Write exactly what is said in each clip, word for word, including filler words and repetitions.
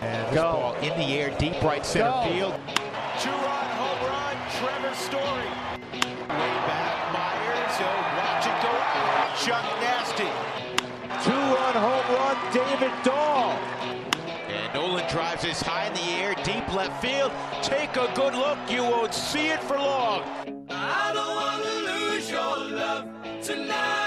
And this Go. ball in the air, deep right center Go. field. Two-run home run, Trevor Story. Way back, Myers. He'll watch it go out. Chuck Nasty. Two-run home run, David Dahl. And Nolan drives this high in the air, deep left field. Take a good look. You won't see it for long. I don't want to lose your love tonight.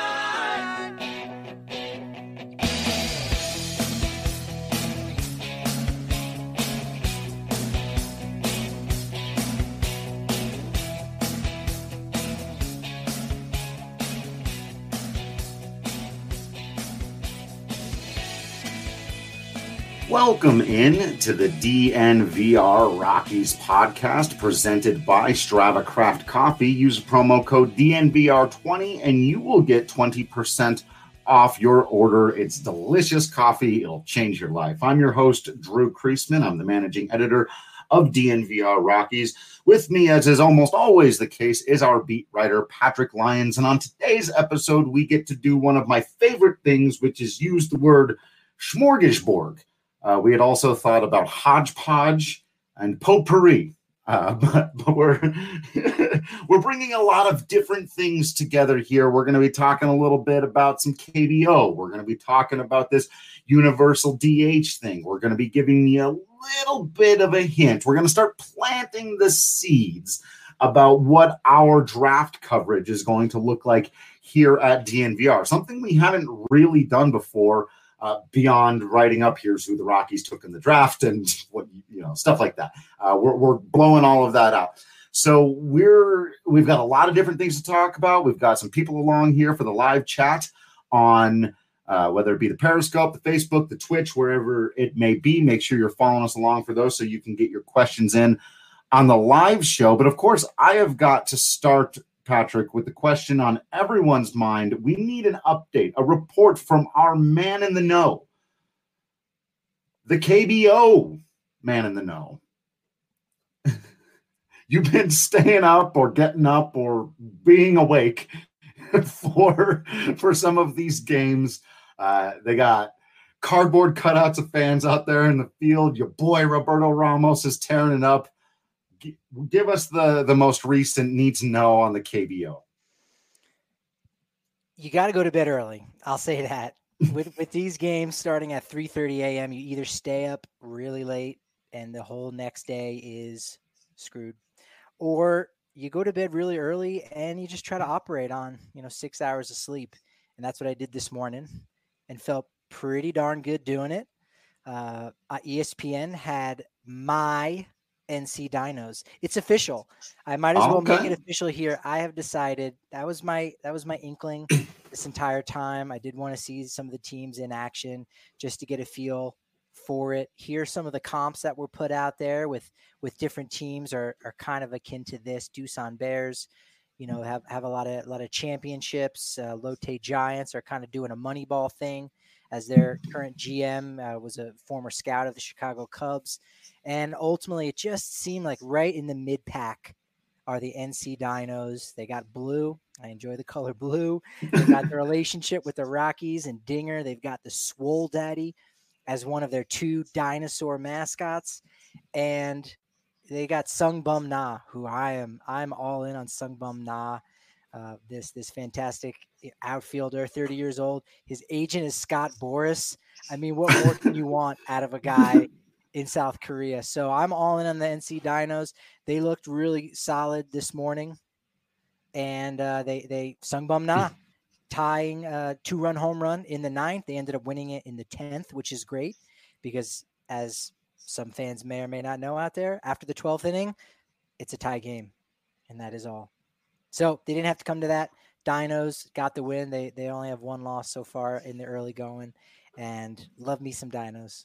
Welcome in to the D N V R Rockies podcast presented by Strava Craft Coffee. Use promo code D N V R twenty and you will get twenty percent off your order. It's delicious coffee. It'll change your life. I'm your host, Drew Kreisman. I'm the managing editor of D N V R Rockies. With me, as is almost always the case, is our beat writer, Patrick Lyons. And on today's episode, we get to do one of my favorite things, which is use the word smorgasbord. Uh, we had also thought about hodgepodge and potpourri, uh, but, but we're we're bringing a lot of different things together here. We're going to be talking a little bit about some K B O. We're going to be talking about this universal D H thing. We're going to be giving you a little bit of a hint. We're going to start planting the seeds about what our draft coverage is going to look like here at D N V R, something we haven't really done before. Uh, beyond writing up here's who the Rockies took in the draft and what, you know, stuff like that. Uh, we're, we're blowing all of that out. So we're, we've got a lot of different things to talk about. We've got some people along here for the live chat on uh, whether it be the Periscope, the Facebook, the Twitch, wherever it may be. Make sure you're following us along for those so you can get your questions in on the live show. But of course, I have got to start, Patrick, with the question on everyone's mind. We need an update, a report from our man in the know, the K B O man in the know. You've been staying up or getting up or being awake for, for some of these games. Uh, they got cardboard cutouts of fans out there in the field. Your boy Roberto Ramos is tearing it up. Give us the, the most recent need to know on the K B O. You got to go to bed early. I'll say that. with with these games starting at three thirty a.m., you either stay up really late and the whole next day is screwed, or you go to bed really early and you just try to operate on, you know, six hours of sleep. And that's what I did this morning and felt pretty darn good doing it. Uh, E S P N had my N C Dinos. It's official. I might as well okay. make it official here. I have decided that was my that was my inkling this entire time. I did want to see some of the teams in action just to get a feel for it. Here's some of the comps that were put out there with with different teams are are kind of akin to this. Doosan Bears, you know, have have a lot of a lot of championships. Uh, Lotte Giants are kind of doing a Moneyball thing, as their current G M uh, was a former scout of the Chicago Cubs. And ultimately, it just seemed like right in the mid-pack are the N C Dinos. They got blue. I enjoy the color blue. They got the relationship with the Rockies and Dinger. They've got the Swole Daddy as one of their two dinosaur mascots. And they got Sung Bum Na, who I am I'm all in on Sung Bum Na. Uh, this this fantastic outfielder, thirty years old. His agent is Scott Boras. I mean, what more can you want out of a guy in South Korea? So I'm all in on the N C Dinos. They looked really solid this morning, and uh, they they Sung Bum Na tying a two-run home run in the ninth. They ended up winning it in the tenth, which is great because, as some fans may or may not know out there, after the twelfth inning, it's a tie game, and that is all. So they didn't have to come to that. Dinos got the win. They they only have one loss so far in the early going, and love me some Dinos.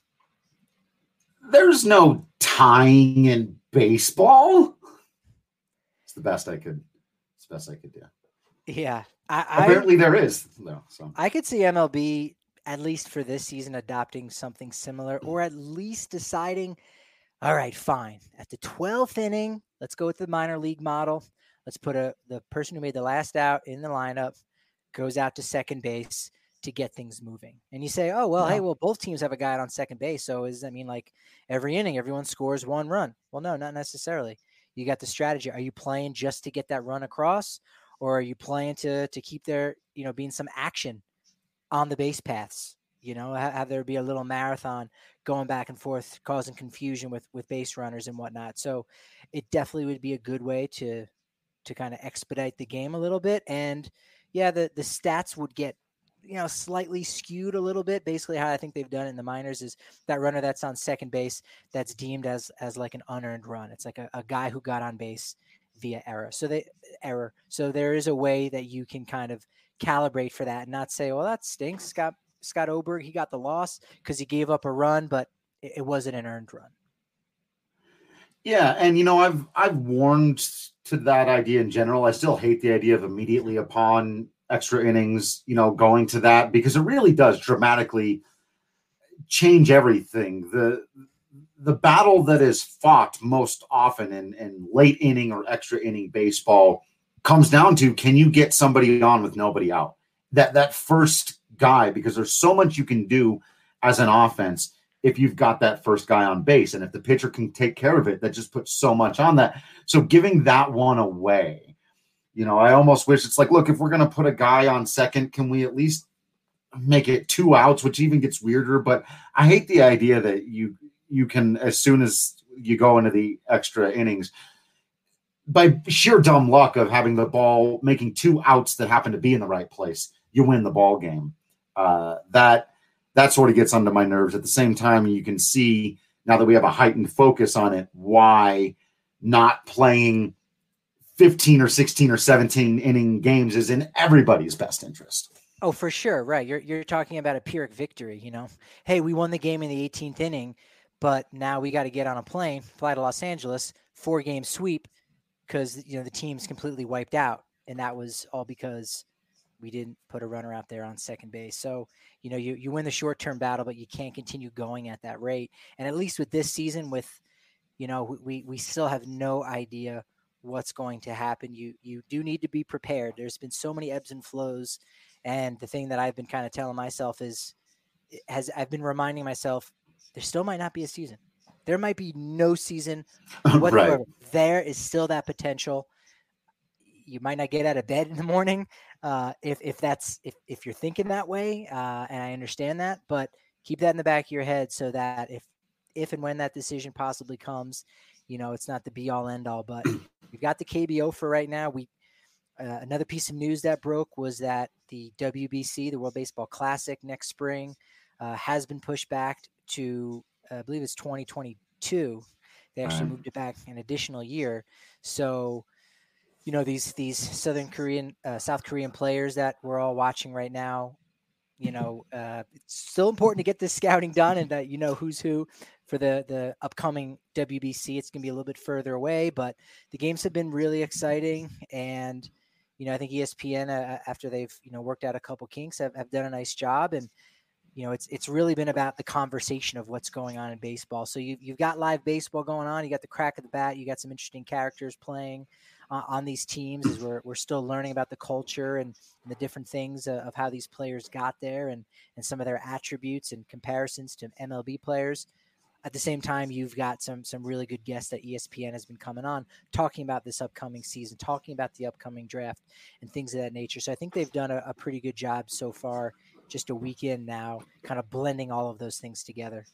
There's no tying in baseball. It's the best I could. It's the best I could do. Yeah, I, apparently I, there is though. So I could see M L B at least for this season adopting something similar, or at least deciding, all right, fine, at the twelfth inning, let's go with the minor league model. Let's put a the person who made the last out in the lineup, goes out to second base. to get things moving. And you say, oh, well, Yeah. hey, well, both teams have a guy on second base. So does that mean like every inning, everyone scores one run? Well, no, not necessarily. You got the strategy. Are you playing just to get that run across, or are you playing to to keep there, you know, being some action on the base paths? You know, have, have there be a little marathon going back and forth, causing confusion with with base runners and whatnot. So it definitely would be a good way to to kind of expedite the game a little bit. And yeah, the the stats would get, you know, slightly skewed a little bit. Basically how I think they've done it in the minors is that runner that's on second base, that's deemed as, as like an unearned run. It's like a, a guy who got on base via error. So they error. So there is a way that you can kind of calibrate for that and not say, well, that stinks. Scott, Scott Oberg, he got the loss because he gave up a run, but it, it wasn't an earned run. Yeah. And, you know, I've, I've warned to that idea in general. I still hate the idea of immediately upon extra innings, you know, going to that, because it really does dramatically change everything. The the battle that is fought most often in, in late inning or extra inning baseball comes down to, can you get somebody on with nobody out? That that first guy, because there's so much you can do as an offense if you've got that first guy on base. And if the pitcher can take care of it, that just puts so much on that. So giving that one away, you know, I almost wish it's like, look, if we're going to put a guy on second, can we at least make it two outs, which even gets weirder. But I hate the idea that you you can, as soon as you go into the extra innings, by sheer dumb luck of having the ball, making two outs that happen to be in the right place, you win the ball game. Uh, that that sort of gets under my nerves. At the same time, you can see, now that we have a heightened focus on it, why not playing fifteen or sixteen or seventeen inning games is in everybody's best interest. Oh, for sure. Right. You're you're talking about a Pyrrhic victory, you know. Hey, we won the game in the eighteenth inning, but now we got to get on a plane, fly to Los Angeles, four game sweep, because, you know, the team's completely wiped out. And that was all because we didn't put a runner out there on second base. So, you know, you, you win the short-term battle, but you can't continue going at that rate. And at least with this season, with, you know, we, we still have no idea what's going to happen. You, you do need to be prepared. There's been so many ebbs and flows. And the thing that I've been kind of telling myself is, has I've been reminding myself, there still might not be a season. There might be no season whatsoever. Right. There is still that potential. You might not get out of bed in the morning uh, if if that's if if you're thinking that way, uh, and I understand that. But keep that in the back of your head so that if if and when that decision possibly comes, you know, it's not the be all end all. But we've got the K B O for right now. We uh, another piece of news that broke was that the W B C, the World Baseball Classic, next spring uh, has been pushed back to, uh, I believe it's twenty twenty-two. They actually moved it back an additional year. So, you know, these these Southern Korean, uh, South Korean players that we're all watching right now, you know, uh, it's still important to get this scouting done and that you know who's who for the the upcoming W B C. It's going to be a little bit further away, but the games have been really exciting. And, you know, I think E S P N, uh, after they've, you know, worked out a couple kinks, have, have done a nice job. And, you know, it's it's really been about the conversation of what's going on in baseball. So you, you've got live baseball going on. You got the crack of the bat. You got some interesting characters playing uh, on these teams as we're, we're still learning about the culture and, and the different things uh, of how these players got there and, and some of their attributes and comparisons to M L B players. At the same time, you've got some some really good guests that E S P N has been coming on, talking about this upcoming season, talking about the upcoming draft and things of that nature. So I think they've done a, a pretty good job so far, just a week in now, kind of blending all of those things together.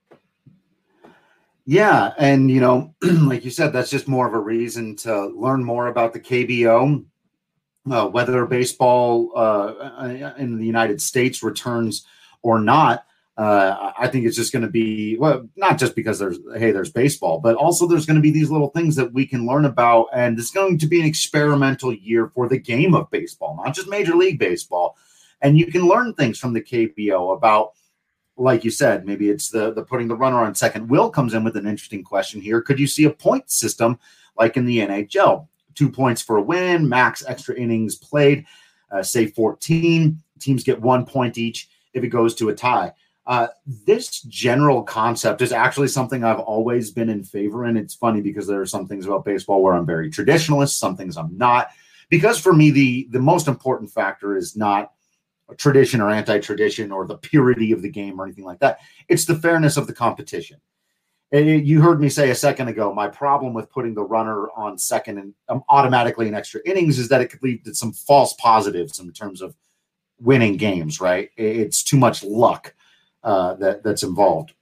Yeah. And, you know, like you said, that's just more of a reason to learn more about the K B O, uh, whether baseball uh, in the United States returns or not. Uh, I think it's just going to be, well, not just because there's, hey, there's baseball, but also there's going to be these little things that we can learn about. And it's going to be an experimental year for the game of baseball, not just Major League Baseball. And you can learn things from the K B O about, like you said, maybe it's the, the putting the runner on second. Will comes in with an interesting question here. Could you see a point system like in the N H L? Two points for a win, max extra innings played, uh, say fourteen. Teams get one point each if it goes to a tie. Uh, this general concept is actually something I've always been in favor in. It's funny because there are some things about baseball where I'm very traditionalist, some things I'm not. Because for me, the, the most important factor is not tradition or anti-tradition or the purity of the game or anything like that. It's the fairness of the competition. And you heard me say a second ago, my problem with putting the runner on second and um, automatically in extra innings is that it could lead to some false positives in terms of winning games, right? It's too much luck uh, that that's involved.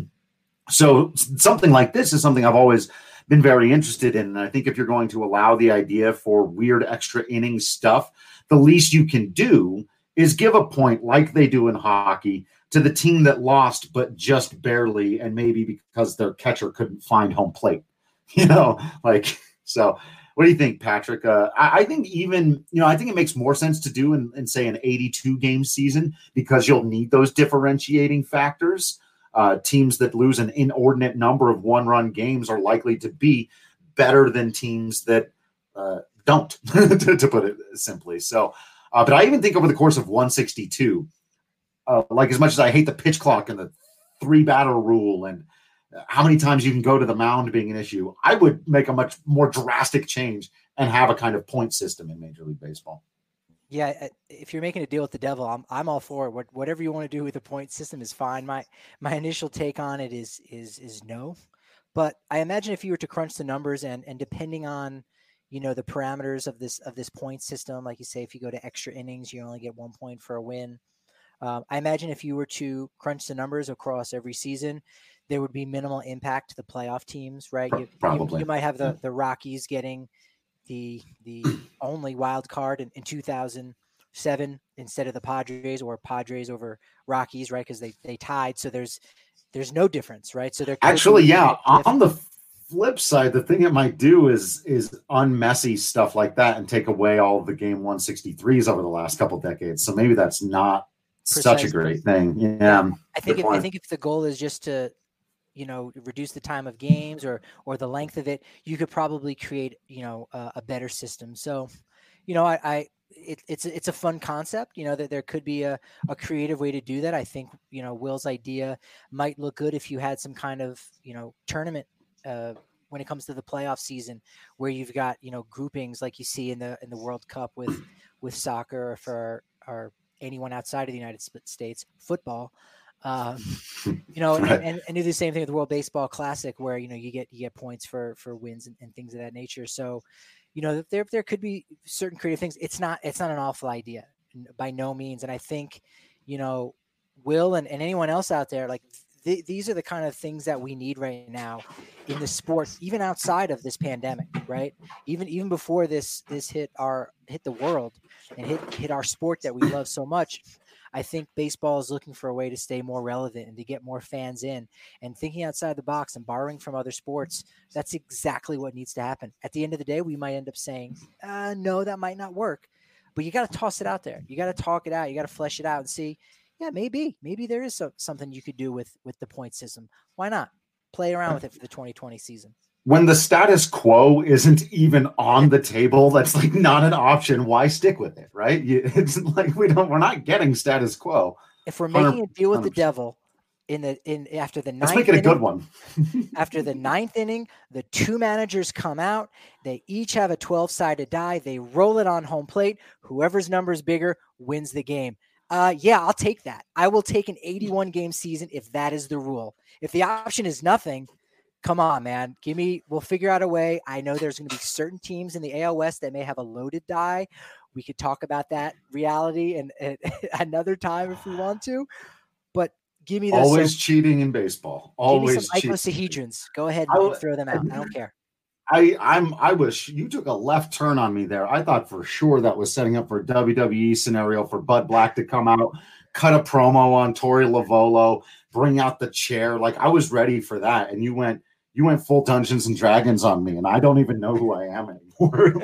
So something like this is something I've always been very interested in. And I think if you're going to allow the idea for weird extra innings stuff, the least you can do is give a point like they do in hockey to the team that lost, but just barely, and maybe because their catcher couldn't find home plate, you know, like, so what do you think, Patrick? Uh, I, I think even, you know, I think it makes more sense to do in, in say an eighty-two game season, because you'll need those differentiating factors. Uh, teams that lose an inordinate number of one-run games are likely to be better than teams that uh, don't, to, to put it simply. So, uh, but I even think over the course of one sixty-two, uh, like as much as I hate the pitch clock and the three batter rule and how many times you can go to the mound being an issue, I would make a much more drastic change and have a kind of point system in Major League Baseball. Yeah, if you're making a deal with the devil, I'm I'm all for it. What, whatever you want to do with the point system is fine. My my initial take on it is is is no, but I imagine if you were to crunch the numbers and and depending on, you know, the parameters of this of this point system, like you say, if you go to extra innings, you only get one point for a win. Um, I imagine if you were to crunch the numbers across every season, there would be minimal impact to the playoff teams, right? You, Probably. You, you might have the the Rockies getting the the only wild card in, in two thousand seven instead of the Padres, or Padres over Rockies, right? Because they they tied, so there's there's no difference, right? So they're actually, yeah. On the flip side, the thing it might do is is unmessy stuff like that and take away all of the game one sixty-threes over the last couple of decades. So maybe that's not Precisely. such a great thing. Yeah, I think if, I think if the goal is just to, you know, reduce the time of games or or the length of it, you could probably create, you know, uh, a better system. So, you know, I, I it, it's it's a fun concept, you know, that there could be a, a creative way to do that. I think, you know, Will's idea might look good if you had some kind of, you know, tournament uh, when it comes to the playoff season, where you've got, you know, groupings like you see in the in the World Cup with with soccer, or for or anyone outside of the United States, football. Um, you know, right. and, and, and do the same thing with the World Baseball Classic, where, you know, you get, you get points for, for wins and, and things of that nature. So, you know, there, there could be certain creative things. It's not, it's not an awful idea by no means. And I think, you know, Will and, and anyone else out there, like th- these are the kind of things that we need right now in the sport, even outside of this pandemic, right? Even, even before this, this hit our, hit the world and hit, hit our sport that we love so much. I think baseball is looking for a way to stay more relevant and to get more fans in, and thinking outside the box and borrowing from other sports. That's exactly what needs to happen. At the end of the day, we might end up saying, uh, no, that might not work, but you got to toss it out there. You got to talk it out. You got to flesh it out and see, yeah, maybe, maybe there is so, something you could do with, with the point system. Why not play around with it for the twenty twenty season? When the status quo isn't even on the table, that's like not an option. Why stick with it, right? You, it's like we don't, we're not getting status quo. If we're making a deal with the devil in the in after the ninth, let's make it a inning, good one. After the ninth inning, the two managers come out. They each have a twelve-sided die. They roll it on home plate. Whoever's number is bigger wins the game. Uh, yeah, I'll take that. I will take an eighty-one game season if that is the rule. If the option is nothing, come on, man. Give me, we'll figure out a way. I know there's going to be certain teams in the A L West that may have a loaded die. We could talk about that reality and, and another time if we want to, but give me those. Always some, cheating in baseball. Always give me some icosahedrons. Go ahead and I, throw them out. I don't care. I, I'm, I wish you took a left turn on me there. I thought for sure that was setting up for a W W E scenario for Bud Black to come out, cut a promo on Tori Lavolo, bring out the chair. Like I was ready for that. And you went, You went full Dungeons and Dragons on me, and I don't even know who I am anymore.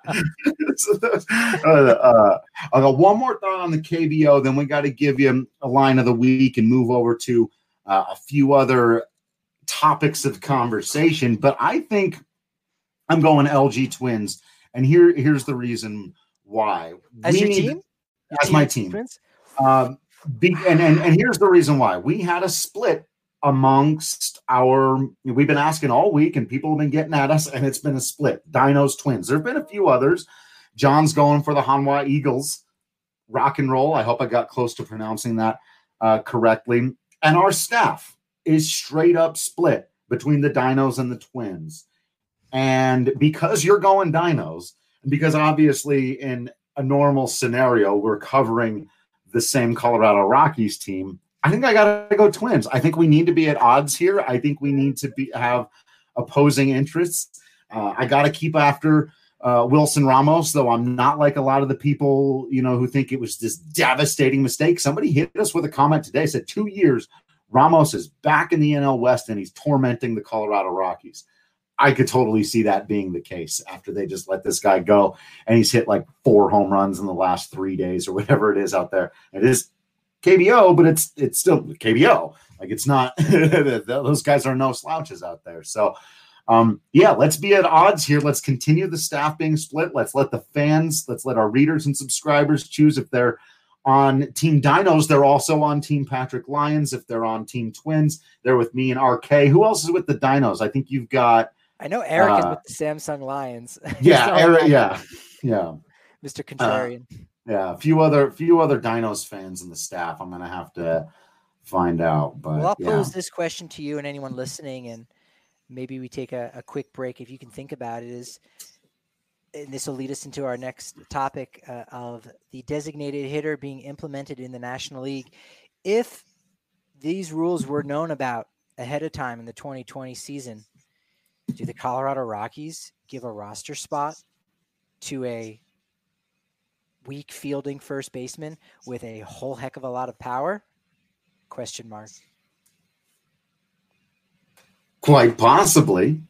so uh, uh, I got one more thought on the K B O, then we got to give you a line of the week and move over to uh, a few other topics of conversation. But I think I'm going L G Twins, and here here's the reason why. As we your need, team? As team my team. Twins? Um, be, and, and, and here's the reason why. We had a split amongst our, we've been asking all week and people have been getting at us, and it's been a split. Dinos Twins. There have been a few others. John's going for the Hanwha Eagles. Rock and Roll. I hope I got close to pronouncing that uh, correctly. And our staff is straight up split between the Dinos and the Twins. And because you're going Dinos, and because obviously in a normal scenario, we're covering the same Colorado Rockies team, I think I got to go Twins. I think we need to be at odds here. I think we need to be have opposing interests. Uh, I got to keep after uh, Wilson Ramos, though I'm not like a lot of the people, you know, who think it was this devastating mistake. Somebody hit us with a comment today, said two years, Ramos is back in the N L West and he's tormenting the Colorado Rockies. I could totally see that being the case after they just let this guy go and he's hit like four home runs in the last three days or whatever it is out there. It is K B O, but it's it's still K B O. Like it's not those guys are no slouches out there. So um, yeah, let's be at odds here. Let's continue the staff being split. Let's let the fans, let's let our readers and subscribers choose if they're on Team Dinos. They're also on Team Patrick Lyons. If they're on Team Twins, they're with me and R K. Who else is with the Dinos? I think you've got. I know Eric uh, is with the Samsung Lions. Yeah, Eric, yeah, yeah. Mister Contrarian. Uh, yeah, a few other few other Dinos fans in the staff. I'm gonna have to find out. But well, I'll yeah. pose this question to you and anyone listening, and maybe we take a, a quick break if you can think about it. Is and this will lead us into our next topic uh, of the designated hitter being implemented in the National League. If these rules were known about ahead of time in the twenty twenty season, do the Colorado Rockies give a roster spot to a weak fielding first baseman with a whole heck of a lot of power? Question mark. Quite possibly.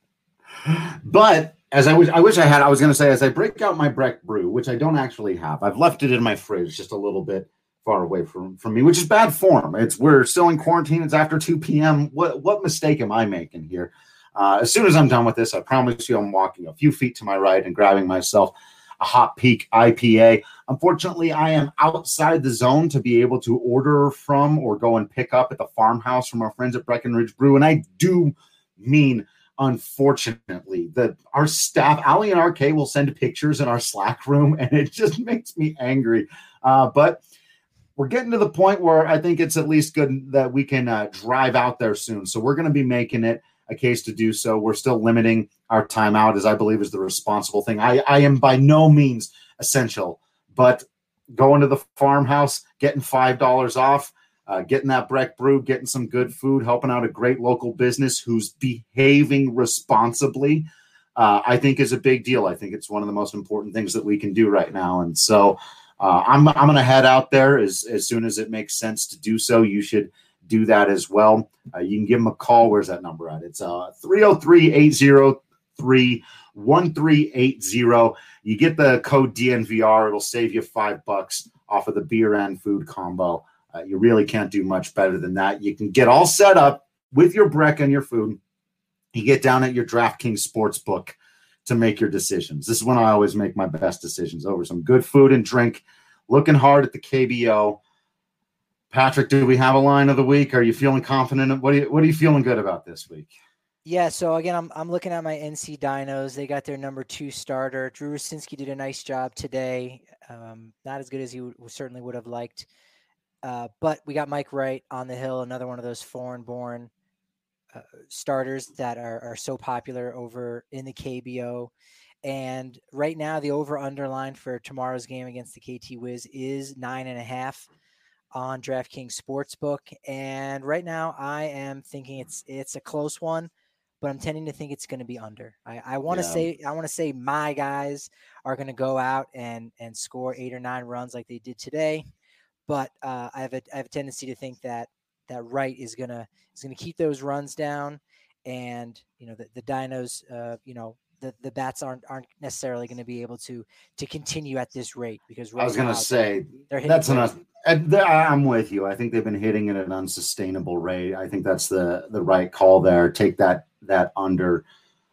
But as I wish, I wish I had, I was going to say, as I break out my Breck Brew, which I don't actually have, I've left it in my fridge just a little bit far away from, from me, which is bad form. It's we're still in quarantine. It's after two p.m. What what mistake am I making here? Uh, as soon as I'm done with this, I promise you I'm walking a few feet to my right and grabbing myself a Hot Peak I P A. Unfortunately, I am outside the zone to be able to order from or go and pick up at the farmhouse from our friends at Breckenridge Brew. And I do mean, unfortunately, that our staff, Ali and R K, will send pictures in our Slack room, and it just makes me angry. Uh, but we're getting to the point where I think it's at least good that we can uh, drive out there soon. So we're going to be making it a case to do so. We're still limiting our timeout, as I believe is the responsible thing. I, I am by no means essential, but going to the farmhouse, getting five dollars off, uh, getting that Breck Brew, getting some good food, helping out a great local business who's behaving responsibly, uh, I think is a big deal. I think it's one of the most important things that we can do right now. And so uh, I'm, I'm going to head out there as, as soon as it makes sense to do so. You should do that as well. Uh, you can give them a call. Where's that number at? It's uh, three oh three, eight oh three, one three eight oh. You get the code D N V R. It'll save you five bucks off of the beer and food combo. Uh, you really can't do much better than that. You can get all set up with your Breck and your food. You get down at your DraftKings Sportsbook to make your decisions. This is when I always make my best decisions, over some good food and drink, looking hard at the K B O. Patrick, do we have a line of the week? Are you feeling confident? What are you, what are you feeling good about this week? Yeah, so again, I'm I'm looking at my N C Dinos. They got their number two starter. Drew Rosinski did a nice job today. Um, not as good as he w- certainly would have liked. Uh, but we got Mike Wright on the hill, another one of those foreign-born uh, starters that are, are so popular over in the K B O. And right now, the over-under line for tomorrow's game against the K T Wiz is nine and a half on DraftKings Sportsbook. And right now I am thinking it's, it's a close one, but I'm tending to think it's going to be under. I, I want to Yeah. say, I want to say my guys are going to go out and, and score eight or nine runs like they did today. But uh, I have a, I have a tendency to think that that Wright is going to, is going to keep those runs down. And, you know, the, the Dinos, uh, you know, the, the bats aren't, aren't necessarily going to be able to, to continue at this rate because right I was going to say they're hitting that's crazy. enough. And th- I'm with you. I think they've been hitting at an unsustainable rate. I think that's the the right call there. Take that that under.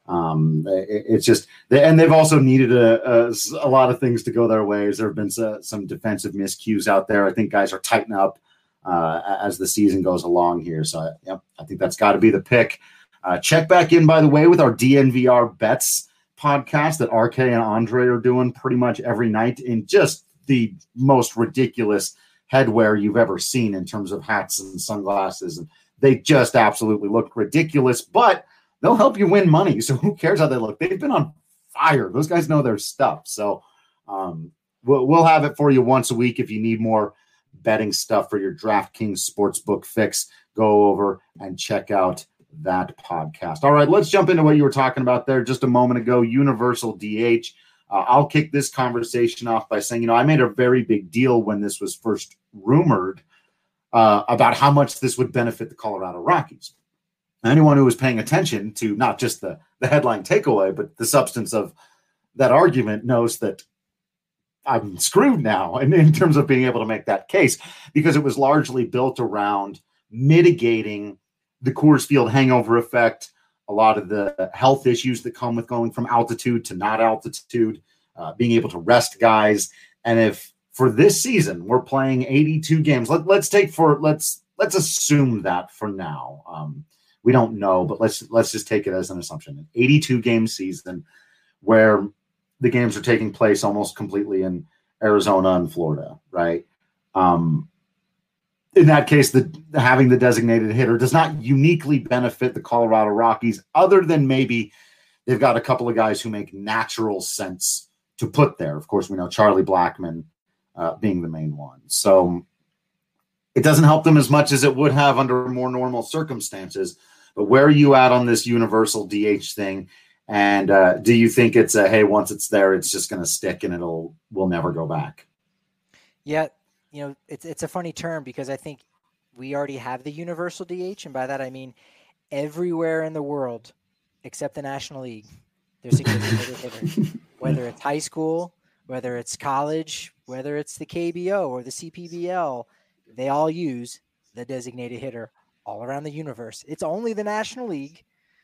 Um, it, it's just, and they've also needed a, a, a lot of things to go their ways. There have been some, some defensive miscues out there. I think guys are tightening up uh, as the season goes along here. So, yep, I think that's got to be the pick. Uh, check back in, by the way, with our D N V R bets podcast that R K and Andre are doing pretty much every night in just the most ridiculous headwear you've ever seen in terms of hats and sunglasses. And they just absolutely look ridiculous, but they'll help you win money. So who cares how they look? They've been on fire. Those guys know their stuff. So um, we'll, we'll have it for you once a week. If you need more betting stuff for your DraftKings Sportsbook fix, go over and check out that podcast. All right, let's jump into what you were talking about there just a moment ago, universal D H. Uh, I'll kick this conversation off by saying, you know, I made a very big deal when this was first rumored uh, about how much this would benefit the Colorado Rockies. Anyone who was paying attention to not just the, the headline takeaway, but the substance of that argument knows that I'm screwed now in, in terms of being able to make that case, because it was largely built around mitigating the Coors Field hangover effect, a lot of the health issues that come with going from altitude to not altitude, uh, being able to rest guys. And if for this season we're playing eighty-two games, let, let's take for let's let's assume that for now. Um, we don't know, but let's let's just take it as an assumption. An eighty-two game season where the games are taking place almost completely in Arizona and Florida, right? Um, in that case, the having the designated hitter does not uniquely benefit the Colorado Rockies, other than maybe they've got a couple of guys who make natural sense to put there. Of course, we know Charlie Blackmon uh, being the main one. So it doesn't help them as much as it would have under more normal circumstances. But where are you at on this universal D H thing? And uh, do you think it's a, hey, once it's there, it's just going to stick and it'll we'll never go back? Yeah, you know, it's it's a funny term because I think we already have the universal D H, and by that I mean everywhere in the world except the National League, there's a designated hitter. Whether it's high school, whether it's college, whether it's the K B O or the C P B L, they all use the designated hitter all around the universe. It's only the National League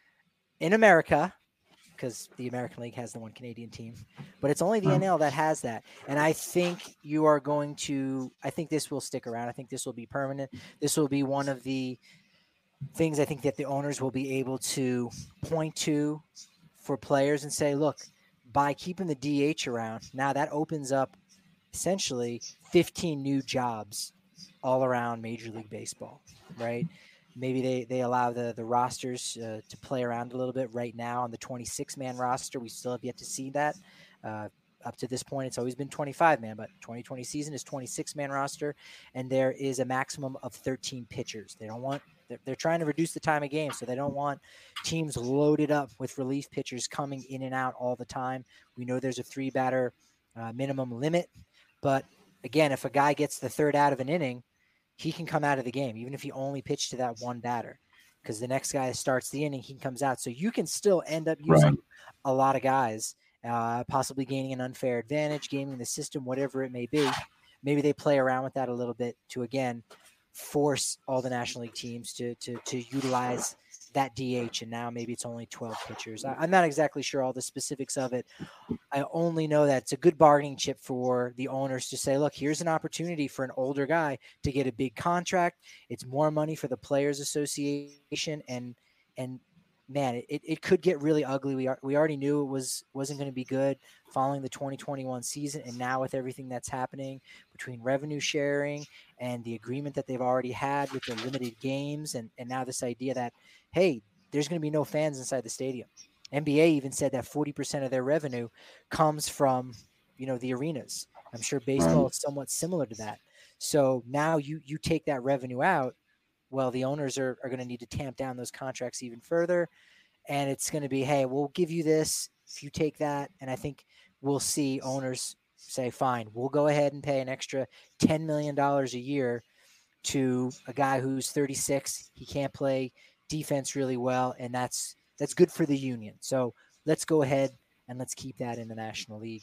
in America, because the American League has the one Canadian team, but it's only the N L that has that. And I think you are going to, I think this will stick around. I think this will be permanent. This will be one of the things I think that the owners will be able to point to for players and say, look, by keeping the D H around, now that opens up essentially fifteen new jobs all around Major League Baseball, right? Maybe they, they allow the, the rosters uh, to play around a little bit. Right now on the twenty-six man roster, we still have yet to see that. Uh, up to this point, it's always been twenty-five man, but twenty twenty season is twenty-six man roster, and there is a maximum of thirteen pitchers. They don't want they're, they're trying to reduce the time of game, so they don't want teams loaded up with relief pitchers coming in and out all the time. We know there's a three batter uh, minimum limit, but again, if a guy gets the third out of an inning, he can come out of the game, even if he only pitched to that one batter, because the next guy starts the inning, he comes out. So you can still end up using right. a lot of guys, uh, possibly gaining an unfair advantage, gaming the system, whatever it may be. Maybe they play around with that a little bit to, again, force all the National League teams to to to utilize that D H, and now maybe it's only twelve pitchers. I, I'm not exactly sure all the specifics of it. I only know that it's a good bargaining chip for the owners to say, look, here's an opportunity for an older guy to get a big contract. It's more money for the Players Association, and and man, it, it could get really ugly. We are, we already knew it was wasn't going to be good following the twenty twenty-one season, and now with everything that's happening between revenue sharing and the agreement that they've already had with the limited games, and and now this idea that, hey, there's going to be no fans inside the stadium. N B A even said that forty percent of their revenue comes from, you know, the arenas. I'm sure baseball is somewhat similar to that. So now you you take that revenue out. Well, the owners are, are going to need to tamp down those contracts even further. And it's going to be, hey, we'll give you this if you take that. And I think we'll see owners say, fine, we'll go ahead and pay an extra ten million dollars a year to a guy who's thirty-six. He can't play defense really well, and that's that's good for the union. So let's go ahead and let's keep that in the National League.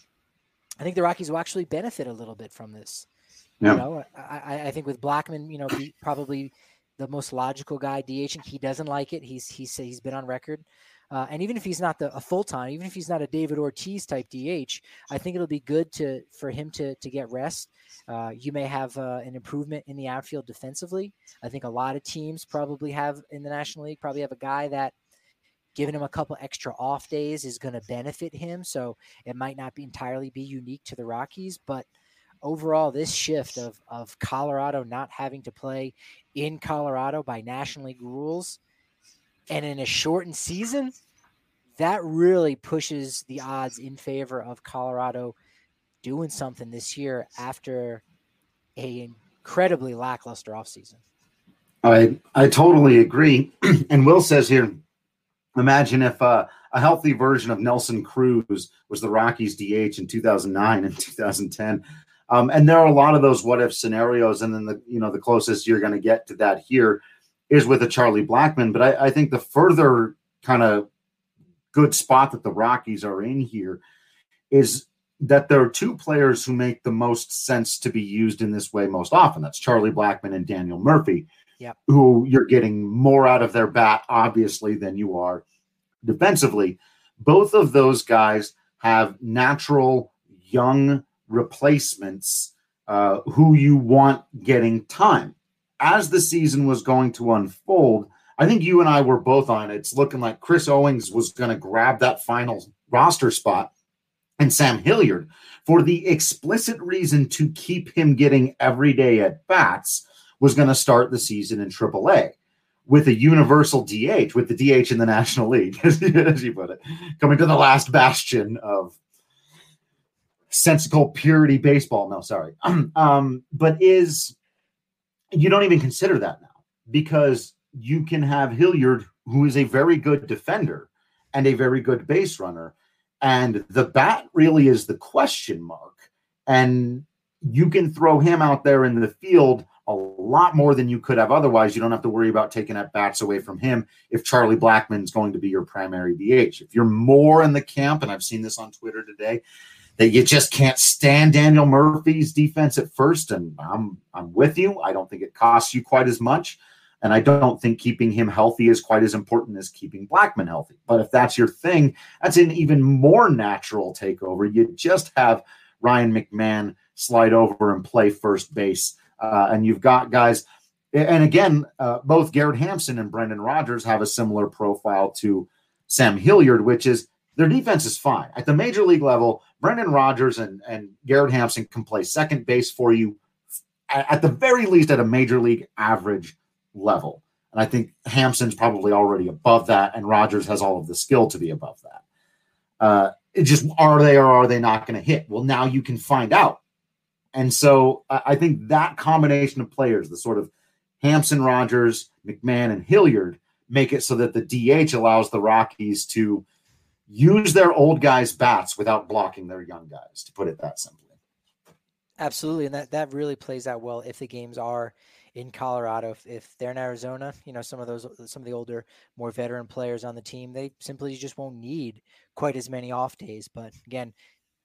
I think the Rockies will actually benefit a little bit from this. Yeah. You know, I, I think with Blackmon, you know, be probably the most logical guy DHing. He doesn't like it. He's he's he's been on record. Uh, and even if he's not the, a full-time, even if he's not a David Ortiz type D H, I think it'll be good to for him to to get rest. Uh, you may have uh, an improvement in the outfield defensively. I think a lot of teams probably have in the National League probably have a guy that giving him a couple extra off days is going to benefit him. So it might not be entirely be unique to the Rockies, but overall, this shift of of Colorado not having to play in Colorado by National League rules and in a shortened season, that really pushes the odds in favor of Colorado doing something this year after a incredibly lackluster offseason. I I totally agree. And Will says here, imagine if uh, a healthy version of Nelson Cruz was the Rockies D H in two thousand nine and two thousand ten. Um, and there are a lot of those what if scenarios. And then the you know the closest you're going to get to that here is with a Charlie Blackmon. But I, I think the further kind of good spot that the Rockies are in here is that there are two players who make the most sense to be used in this way most often. That's Charlie Blackmon and Daniel Murphy, yep. who you're getting more out of their bat, obviously, than you are defensively. Both of those guys have natural young replacements uh, who you want getting time. As the season was going to unfold, I think you and I were both on it. It's looking like Chris Owings was going to grab that final roster spot, and Sam Hilliard, for the explicit reason to keep him getting everyday at bats, was going to start the season in triple A with a universal D H, with the D H in the National League, as you put it, coming to the last bastion of sensical purity baseball. No, sorry. Um, but is you don't even consider that now, because you can have Hilliard, who is a very good defender and a very good base runner, and the bat really is the question mark. And you can throw him out there in the field a lot more than you could have otherwise. You don't have to worry about taking at bats away from him if Charlie Blackmon's going to be your primary D H. If you're more in the camp, and I've seen this on Twitter today, that you just can't stand Daniel Murphy's defense at first, and I'm I'm with you. I don't think it costs you quite as much. And I don't think keeping him healthy is quite as important as keeping Blackmon healthy. But if that's your thing, that's an even more natural takeover. You just have Ryan McMahon slide over and play first base. Uh, and you've got guys, and again, uh, both Garrett Hampson and Brendan Rodgers have a similar profile to Sam Hilliard, which is their defense is fine. At the major league level, Brendan Rodgers and, and Garrett Hampson can play second base for you at the very least at a major league average level. And I think Hampson's probably already above that, and Rodgers has all of the skill to be above that. Uh, it just, are they or are they not going to hit? Well, now you can find out. And so I, I think that combination of players, the sort of Hampson, Rodgers, McMahon, and Hilliard, make it so that the D H allows the Rockies to use their old guys' bats without blocking their young guys, to put it that simply. Absolutely. And that, that really plays out well if the games are in Colorado. If, if they're in Arizona, you know, some of those, some of the older, more veteran players on the team, they simply just won't need quite as many off days. But again,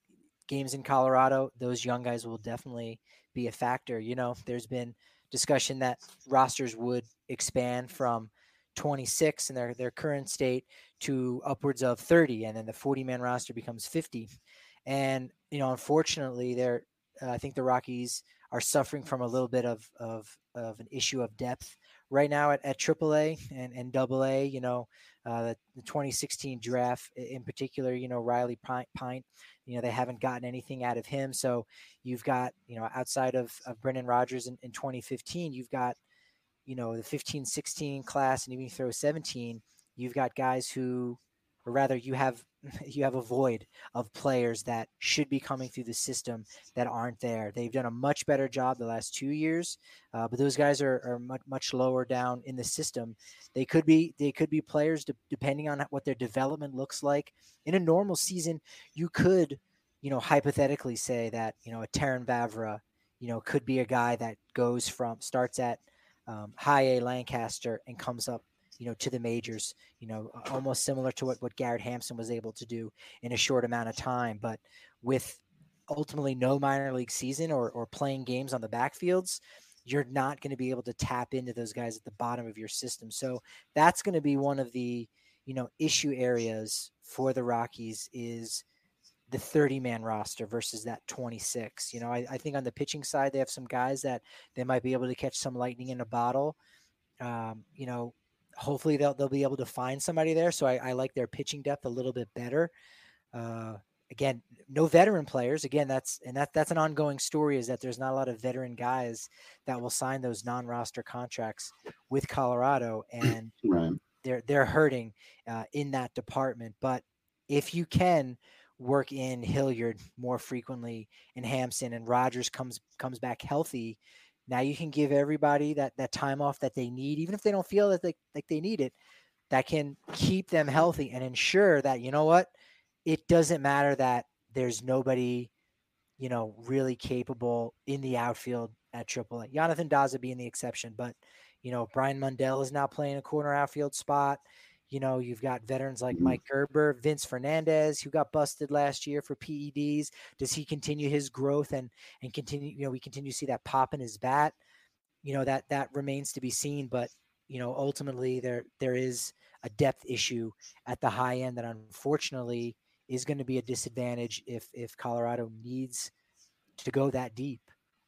games in Colorado, those young guys will definitely be a factor. You know, there's been discussion that rosters would expand from twenty-six in their, their current state to upwards of thirty, and then the forty man roster becomes fifty. And, you know, unfortunately, they're, uh, I think the Rockies are suffering from a little bit of, of, of an issue of depth right now at, at triple A and, and double A. You know, uh, the, the twenty sixteen draft in particular, you know, Riley Pint, you know, they haven't gotten anything out of him. So you've got, you know, outside of, of Brendan Rodgers in, in twenty fifteen, you've got, you know, the fifteen sixteen class, and even you throw seventeen, you've got guys who, or rather you have, you have a void of players that should be coming through the system that aren't there. They've done a much better job the last two years, uh, but those guys are, are much, much lower down in the system. They could be, they could be players de- depending on what their development looks like. In a normal season, you could, you know, hypothetically say that, you know, a Terran Vavra, you know, could be a guy that goes from, starts at um, high A Lancaster and comes up, you know, to the majors, you know, almost similar to what, what Garrett Hampson was able to do in a short amount of time. But with ultimately no minor league season or, or playing games on the backfields, you're not going to be able to tap into those guys at the bottom of your system. So that's going to be one of the, you know, issue areas for the Rockies is the thirty man roster versus that twenty-six. You know, I, I think on the pitching side, they have some guys that they might be able to catch some lightning in a bottle. Um, you know, hopefully they'll they'll be able to find somebody there. So I, I like their pitching depth a little bit better. Uh, again, no veteran players. Again, that's and that that's an ongoing story, is that there's not a lot of veteran guys that will sign those non-roster contracts with Colorado, and right. they're they're hurting uh, in that department. But if you can work in Hilliard more frequently and Hampson, and Rogers comes comes back healthy, now you can give everybody that that time off that they need, even if they don't feel that they like they need it. That can keep them healthy and ensure that, you know what, it doesn't matter that there's nobody, you know, really capable in the outfield at triple A. Jonathan Daza being the exception, but, you know, Brian Mundell is now playing a corner outfield spot. You know, you've got veterans like Mike Gerber, Vince Fernandez, who got busted last year for P E Ds. Does he continue his growth and and continue, you know, we continue to see that pop in his bat? You know, that that remains to be seen, but you know, ultimately there there is a depth issue at the high end that unfortunately is going to be a disadvantage if if Colorado needs to go that deep.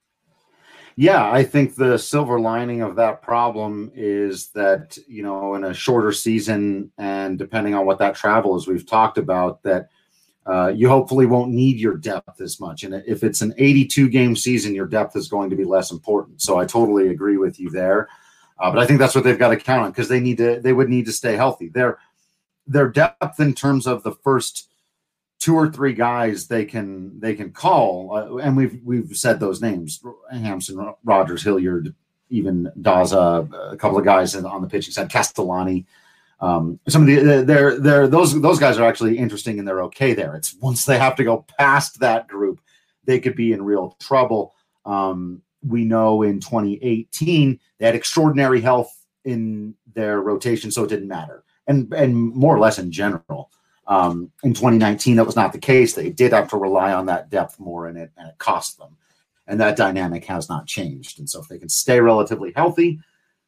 Yeah, I think the silver lining of that problem is that, you know, in a shorter season, and depending on what that travel is, we've talked about that uh, you hopefully won't need your depth as much. And if it's an eighty-two game season, your depth is going to be less important. So I totally agree with you there. Uh, but I think that's what they've got to count on, because they need to, they would need to stay healthy. Their, their depth in terms of the first two or three guys they can, they can call. Uh, and we've, we've said those names: Hampson, Rogers, Hilliard, even Daza, a couple of guys on the pitching side, Castellani. Um, some of the, they're, they're, those, those guys are actually interesting and they're okay there. It's once they have to go past that group, they could be in real trouble. Um, We know in twenty eighteen they had extraordinary health in their rotation, so it didn't matter. And and more or less in general. Um, in twenty nineteen, that was not the case. They did have to rely on that depth more, and it, and it cost them. And that dynamic has not changed. And so if they can stay relatively healthy,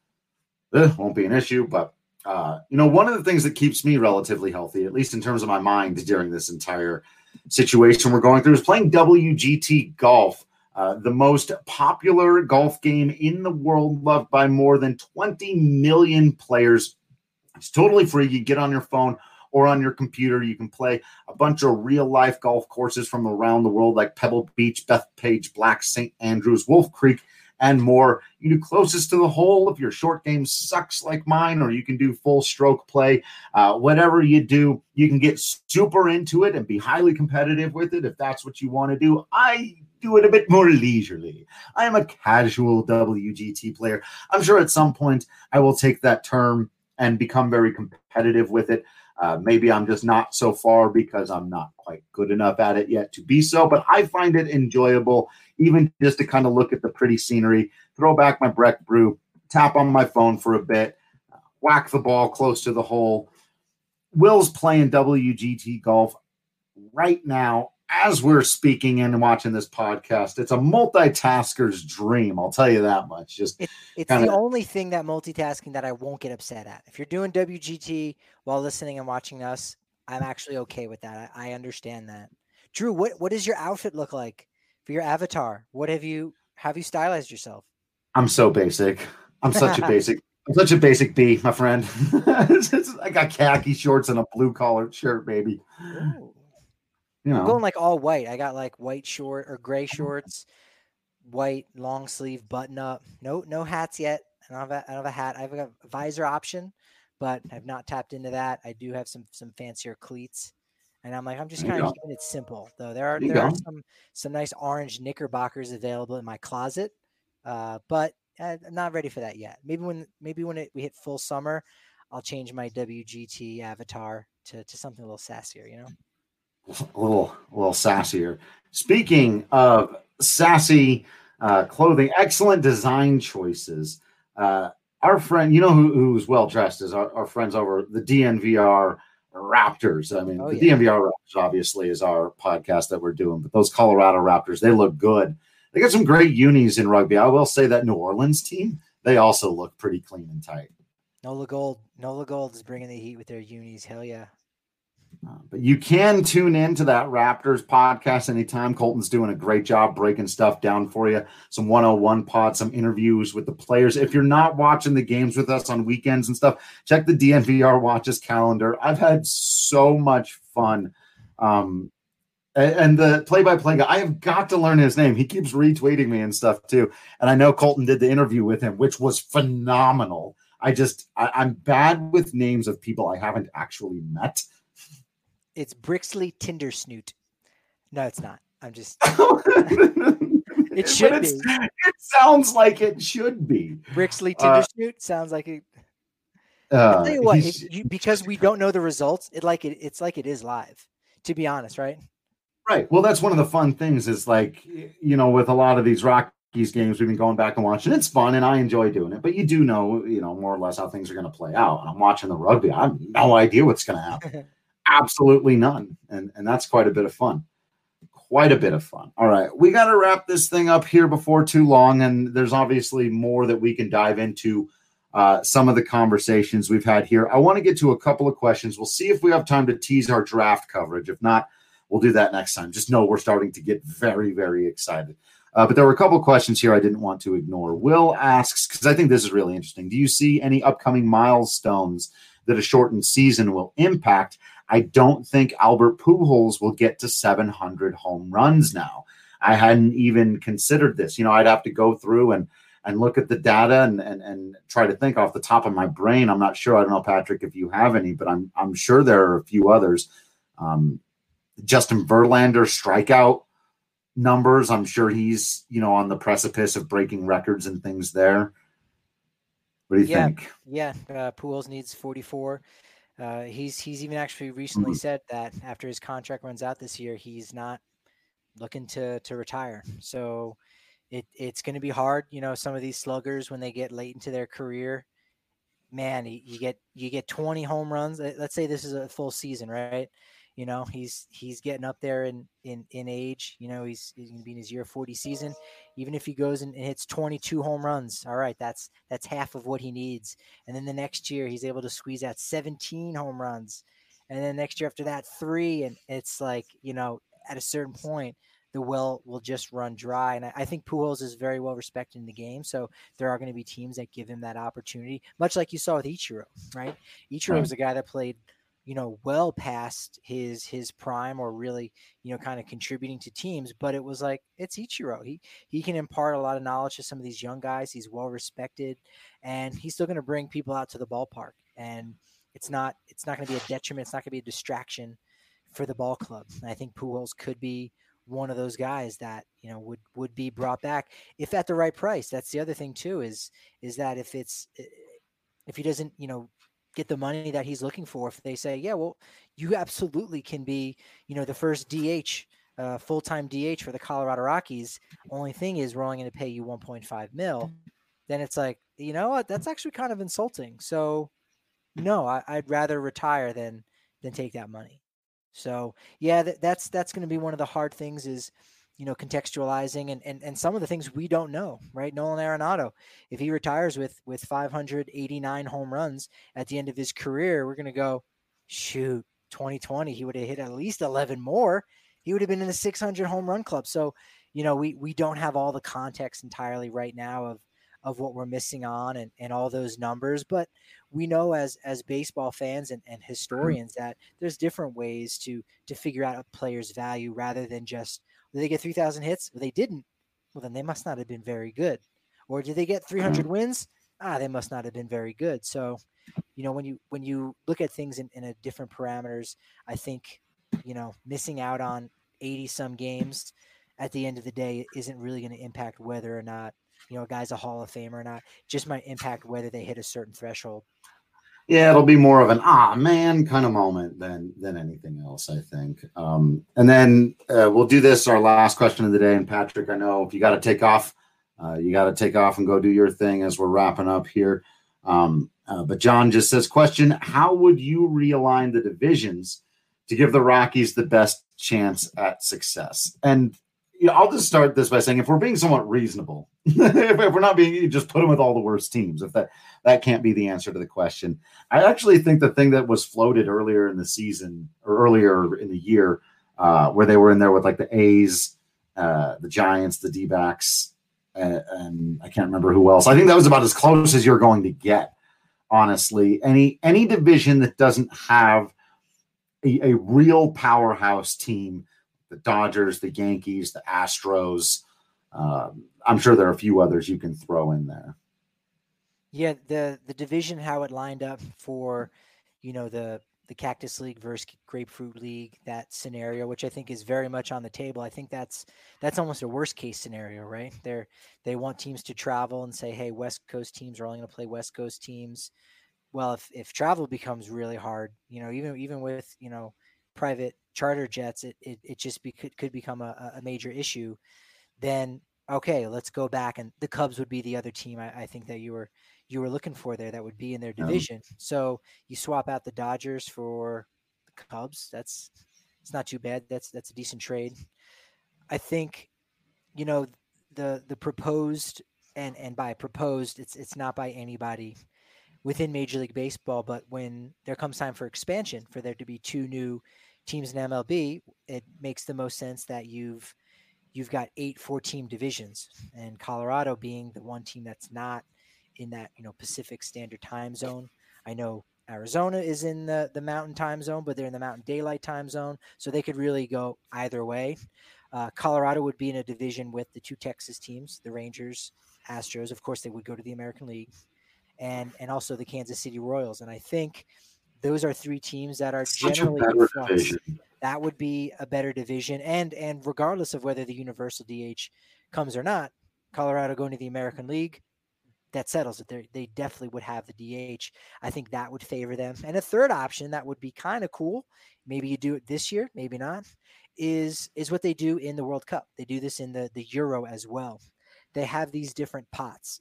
it won't be an issue. But, uh, you know, one of the things that keeps me relatively healthy, at least in terms of my mind during this entire situation we're going through, is playing W G T golf. Uh, the most popular golf game in the world, loved by more than twenty million players. It's totally free. You get on your phone or on your computer. You can play a bunch of real-life golf courses from around the world, like Pebble Beach, Bethpage, Black, Saint Andrews, Wolf Creek, and more. You can do closest to the hole if your short game sucks like mine, or you can do full stroke play. Uh, whatever you do, you can get super into it and be highly competitive with it if that's what you want to do. I do it a bit more leisurely. I am a casual W G T player. I'm sure at some point I will take that term and become very competitive with it. Uh, maybe I'm just not so far because I'm not quite good enough at it yet to be so, but I find it enjoyable, even just to kind of look at the pretty scenery, throw back my Breck Brew, tap on my phone for a bit, uh, whack the ball close to the hole. Will's playing W G T golf right now as we're speaking and watching this podcast. It's a multitasker's dream, I'll tell you that much. Just it, it's kinda, the only thing that multitasking that I won't get upset at. If you're doing W G T while listening and watching us, I'm actually okay with that. I, I understand that. Drew, what what does your outfit look like for your avatar? What have you have you stylized yourself? I'm so basic. I'm such a basic. I'm such a basic B, my friend. it's, it's, I got khaki shorts and a blue collared shirt, baby. Ooh. You know. I'm going like all white. I got like white short or gray shorts, white long sleeve button up. No, no hats yet. I don't have a, I don't have a hat. I have a visor option, but I've not tapped into that. I do have some some fancier cleats, and I'm like, I'm just kind of keeping it simple though. There are there, there are some some nice orange knickerbockers available in my closet, uh, but I'm not ready for that yet. Maybe when maybe when it, we hit full summer, I'll change my W G T avatar to to something a little sassier. You know. A little, a little sassier. Speaking of sassy uh, clothing, excellent design choices. Uh, our friend, you know who, who's well dressed is our, our friends over the D N V R Raptors. I mean, oh, the yeah. D N V R Raptors obviously is our podcast that we're doing, but those Colorado Raptors, they look good. They got some great unis in rugby. I will say that New Orleans team, they also look pretty clean and tight. Nola Gold, Nola Gold is bringing the heat with their unis. Hell yeah. Uh, but you can tune in to that Raptors podcast anytime. Colton's doing a great job breaking stuff down for you. Some one oh one pods, some interviews with the players. If you're not watching the games with us on weekends and stuff, check the D N V R Watches calendar. I've had so much fun um, And, and the play-by-play guy, I have got to learn his name. He keeps retweeting me and stuff too. And I know Colton did the interview with him, which was phenomenal. I just, I, I'm bad with names of people I haven't actually met. It's Brixley Tindersnoot. No, it's not. I'm just. It should be. It sounds like it should be. Brixley Tindersnoot uh, sounds like it. Uh, I'll tell you what, if you, because we don't know the results, it like it, it's like it is live. To be honest, right? Right. Well, that's one of the fun things. Is like, you know, with a lot of these Rockies games, we've been going back and watching. It's fun, and I enjoy doing it. But you do know, you know, more or less how things are going to play out. And I'm watching the rugby. I have no idea what's going to happen. Absolutely none. And and that's quite a bit of fun. Quite a bit of fun. All right. We got to wrap this thing up here before too long. And there's obviously more that we can dive into uh, some of the conversations we've had here. I want to get to a couple of questions. We'll see if we have time to tease our draft coverage. If not, we'll do that next time. Just know we're starting to get very, very excited. Uh, but there were a couple of questions here I didn't want to ignore. Will asks, because I think this is really interesting, do you see any upcoming milestones that a shortened season will impact? I don't think Albert Pujols will get to seven hundred home runs now. I hadn't even considered this. You know, I'd have to go through and and look at the data and and and try to think off the top of my brain. I'm not sure. I don't know, Patrick, if you have any, but I'm I'm sure there are a few others. Um, Justin Verlander strikeout numbers. I'm sure he's, you know, on the precipice of breaking records and things there. What do you yeah, think? Yeah, uh, Pujols needs forty-four. Uh, he's he's even actually recently mm-hmm. said that after his contract runs out this year, he's not looking to to retire. So it it's going to be hard. You know, some of these sluggers, when they get late into their career, man, you, you get you get twenty home runs. Let's say this is a full season, right? You know, he's he's getting up there in in, in age. You know, he's, he's going to be in his year forty season. Even if he goes and hits twenty-two home runs, all right, that's that's half of what he needs. And then the next year, he's able to squeeze out seventeen home runs. And then next year after that, three. And it's like, you know, at a certain point, the well will just run dry. And I, I think Pujols is very well respected in the game. So there are going to be teams that give him that opportunity, much like you saw with Ichiro, right? Ichiro was a guy that played, you know, well past his his prime or really, you know, kind of contributing to teams. But it was like, it's Ichiro. He he can impart a lot of knowledge to some of these young guys. He's well respected, and he's still going to bring people out to the ballpark. And it's not it's not going to be a detriment. It's not going to be a distraction for the ball club. And I think Pujols could be one of those guys that, you know, would would be brought back if at the right price. That's the other thing too, is is that if it's if he doesn't, you know, get the money that he's looking for, if they say, yeah, well, you absolutely can be, you know, the first D H, uh, full-time D H for the Colorado Rockies. Only thing is we're only going to pay you one point five mil. Then it's like, you know what, that's actually kind of insulting. So no, I, I'd rather retire than, than take that money. So yeah, that, that's, that's going to be one of the hard things is, you know, contextualizing and, and, and some of the things we don't know, right? Nolan Arenado, if he retires with, with five hundred eighty-nine home runs at the end of his career, we're going to go, shoot, twenty twenty, he would have hit at least eleven more. He would have been in the six hundred home run club. So, you know, we, we don't have all the context entirely right now of, of what we're missing on and, and all those numbers, but we know as, as baseball fans and, and historians that there's different ways to, to figure out a player's value rather than just, did they get three thousand hits? Well, they didn't. Well, then they must not have been very good. Or did they get three hundred wins? Ah, they must not have been very good. So, you know, when you when you look at things in, in a different parameters, I think, you know, missing out on eighty-some games at the end of the day isn't really going to impact whether or not, you know, a guy's a Hall of Famer or not. It just might impact whether they hit a certain threshold. Yeah, it'll be more of an ah man kind of moment than than anything else, I think. Um, and then uh, we'll do this our last question of the day. And Patrick, I know if you got to take off, uh, you got to take off and go do your thing as we're wrapping up here. Um, uh, but John just says, question: how would you realign the divisions to give the Rockies the best chance at success? And you know, I'll just start this by saying, if we're being somewhat reasonable, if, if we're not being, you just put them with all the worst teams. If that that can't be the answer to the question, I actually think the thing that was floated earlier in the season or earlier in the year, uh, where they were in there with like the A's, uh, the Giants, the D-backs, uh, and I can't remember who else. I think that was about as close as you're going to get, honestly. Any any division that doesn't have a, a real powerhouse team. the Dodgers, the Yankees, the Astros. Um, I'm sure there are a few others you can throw in there. Yeah, the the division, how it lined up for, you know, the the Cactus League versus Grapefruit League, that scenario, which I think is very much on the table. I think that's that's almost a worst case scenario, right? They're they want teams to travel and say, hey, West Coast teams are only going to play West Coast teams. Well, if if travel becomes really hard, you know, even even with, you know, private charter jets, it it, it just be, could, could become a, a major issue. Then okay, let's go back, and the Cubs would be the other team I, I think that you were you were looking for there that would be in their division. Um, so you swap out the Dodgers for the Cubs. That's it's not too bad. That's that's a decent trade. I think, you know, the the proposed, and and by proposed, it's it's not by anybody within Major League Baseball, but when there comes time for expansion, for there to be two new teams in M L B, it makes the most sense that you've you've got eight four-team divisions, and Colorado being the one team that's not in that, you know, Pacific Standard Time Zone. I know Arizona is in the, the Mountain Time Zone, but they're in the Mountain Daylight Time Zone, so they could really go either way. Uh, Colorado would be in a division with the two Texas teams, the Rangers, Astros. Of course, they would go to the American League, and and also the Kansas City Royals. And I think those are three teams that are Such generally a better division. That would be a better division. And and regardless of whether the universal D H comes or not, Colorado going to the American League, that settles it. They're, they definitely would have the D H. I think that would favor them. And a third option that would be kind of cool, maybe you do it this year, maybe not, is is what they do in the World Cup. They do this in the, the Euro as well. They have these different pots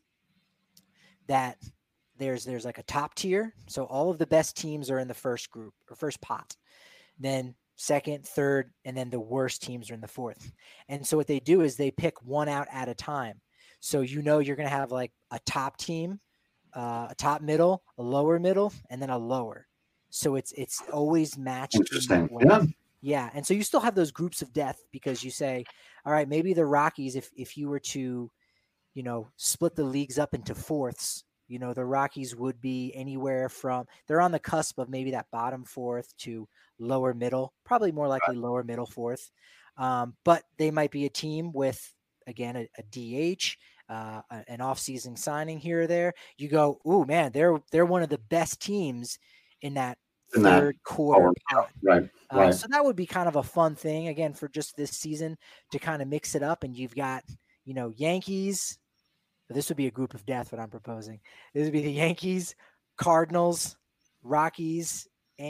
that there's there's like a top tier. So all of the best teams are in the first group or first pot. Then second, third, and then the worst teams are in the fourth. And so what they do is they pick one out at a time. So, you know, you're going to have like a top team, uh, a top middle, a lower middle, and then a lower. So it's it's always matched. Interesting. In Yeah. Yeah. And so you still have those groups of death, because you say, all right, maybe the Rockies, if if you were to, you know, split the leagues up into fourths, you know, the Rockies would be anywhere from, they're on the cusp of maybe that bottom fourth to lower middle, probably more likely lower middle fourth. Um, but they might be a team with, again, a, a D H, uh, an off-season signing here or there. You go, ooh, man, they're they're one of the best teams in that in third that quarter pot. Right, uh, right. So that would be kind of a fun thing, again, for just this season to kind of mix it up. And you've got, you know, Yankees. This would be a group of death, what I'm proposing. This would be the Yankees, Cardinals, Rockies,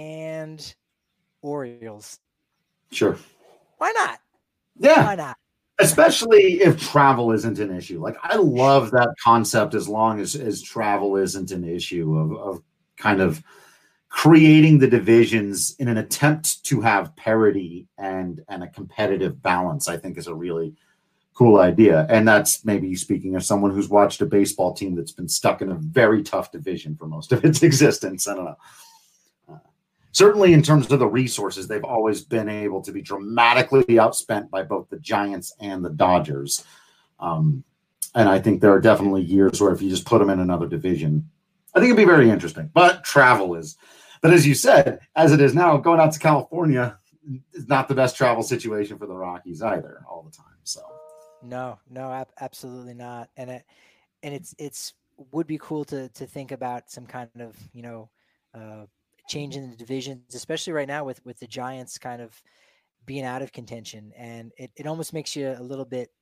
and Orioles. Sure. Why not? Yeah. Why not? Especially if travel isn't an issue. Like, I love that concept as long as, as travel isn't an issue of, of kind of creating the divisions in an attempt to have parity and, and a competitive balance, I think is a really cool idea. And that's maybe speaking of someone who's watched a baseball team that's been stuck in a very tough division for most of its existence. I don't know. Uh, certainly in terms of the resources, they've always been able to be dramatically outspent by both the Giants and the Dodgers. Um, and I think there are definitely years where if you just put them in another division, I think it'd be very interesting. But travel is, but as you said, as it is now, going out to California is not the best travel situation for the Rockies either all the time. So. No, no, ab- absolutely not. And it, and it's, it's would be cool to, to think about some kind of, you know, uh, change in the divisions, especially right now with, with the Giants kind of being out of contention. And it, it almost makes you a little bit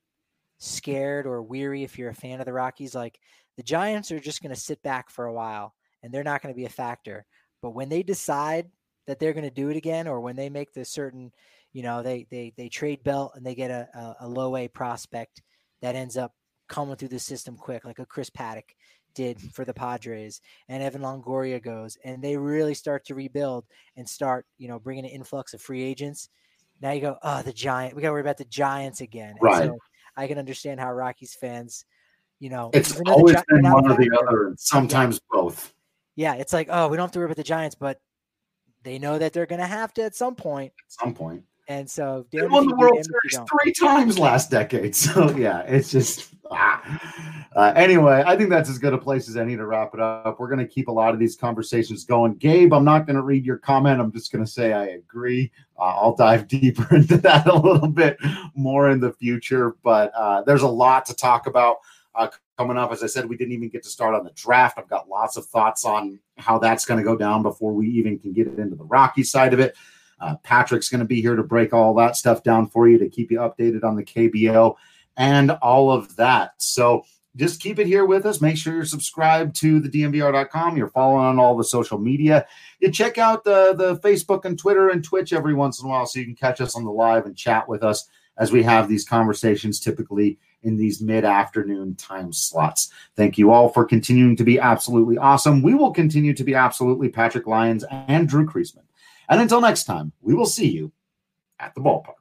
scared or weary if you're a fan of the Rockies. Like, the Giants are just going to sit back for a while and they're not going to be a factor. But when they decide that they're going to do it again, or when they make the certain, you know, they they they trade Belt and they get a, a, a low A prospect that ends up coming through the system quick, like a Chris Paddock did for the Padres, and Evan Longoria goes, and they really start to rebuild and start, you know, bringing an influx of free agents. Now you go, oh, the Giant, we got to worry about the Giants again. And right. So I can understand how Rockies fans, you know, it's always the, been one or the other, and sometimes yeah. both. Yeah, it's like, oh, we don't have to worry about the Giants, but they know that they're going to have to at some point. At some point. And so they won the World Series three times last decade. So yeah, it's just ah. uh, anyway. I think that's as good a place as any to wrap it up. We're going to keep a lot of these conversations going. Gabe, I'm not going to read your comment. I'm just going to say I agree. Uh, I'll dive deeper into that a little bit more in the future. But uh, there's a lot to talk about uh, coming up. As I said, we didn't even get to start on the draft. I've got lots of thoughts on how that's going to go down before we even can get it into the Rockies side of it. Uh, Patrick's going to be here to break all that stuff down for you, to keep you updated on the K B O and all of that. So just keep it here with us. Make sure you're subscribed to the D N V R dot com. You're following on all the social media. You check out the, the Facebook and Twitter and Twitch every once in a while so you can catch us on the live and chat with us as we have these conversations typically in these mid-afternoon time slots. Thank you all for continuing to be absolutely awesome. We will continue to be absolutely Patrick Lyons and Drew Creasman. And until next time, we will see you at the ballpark.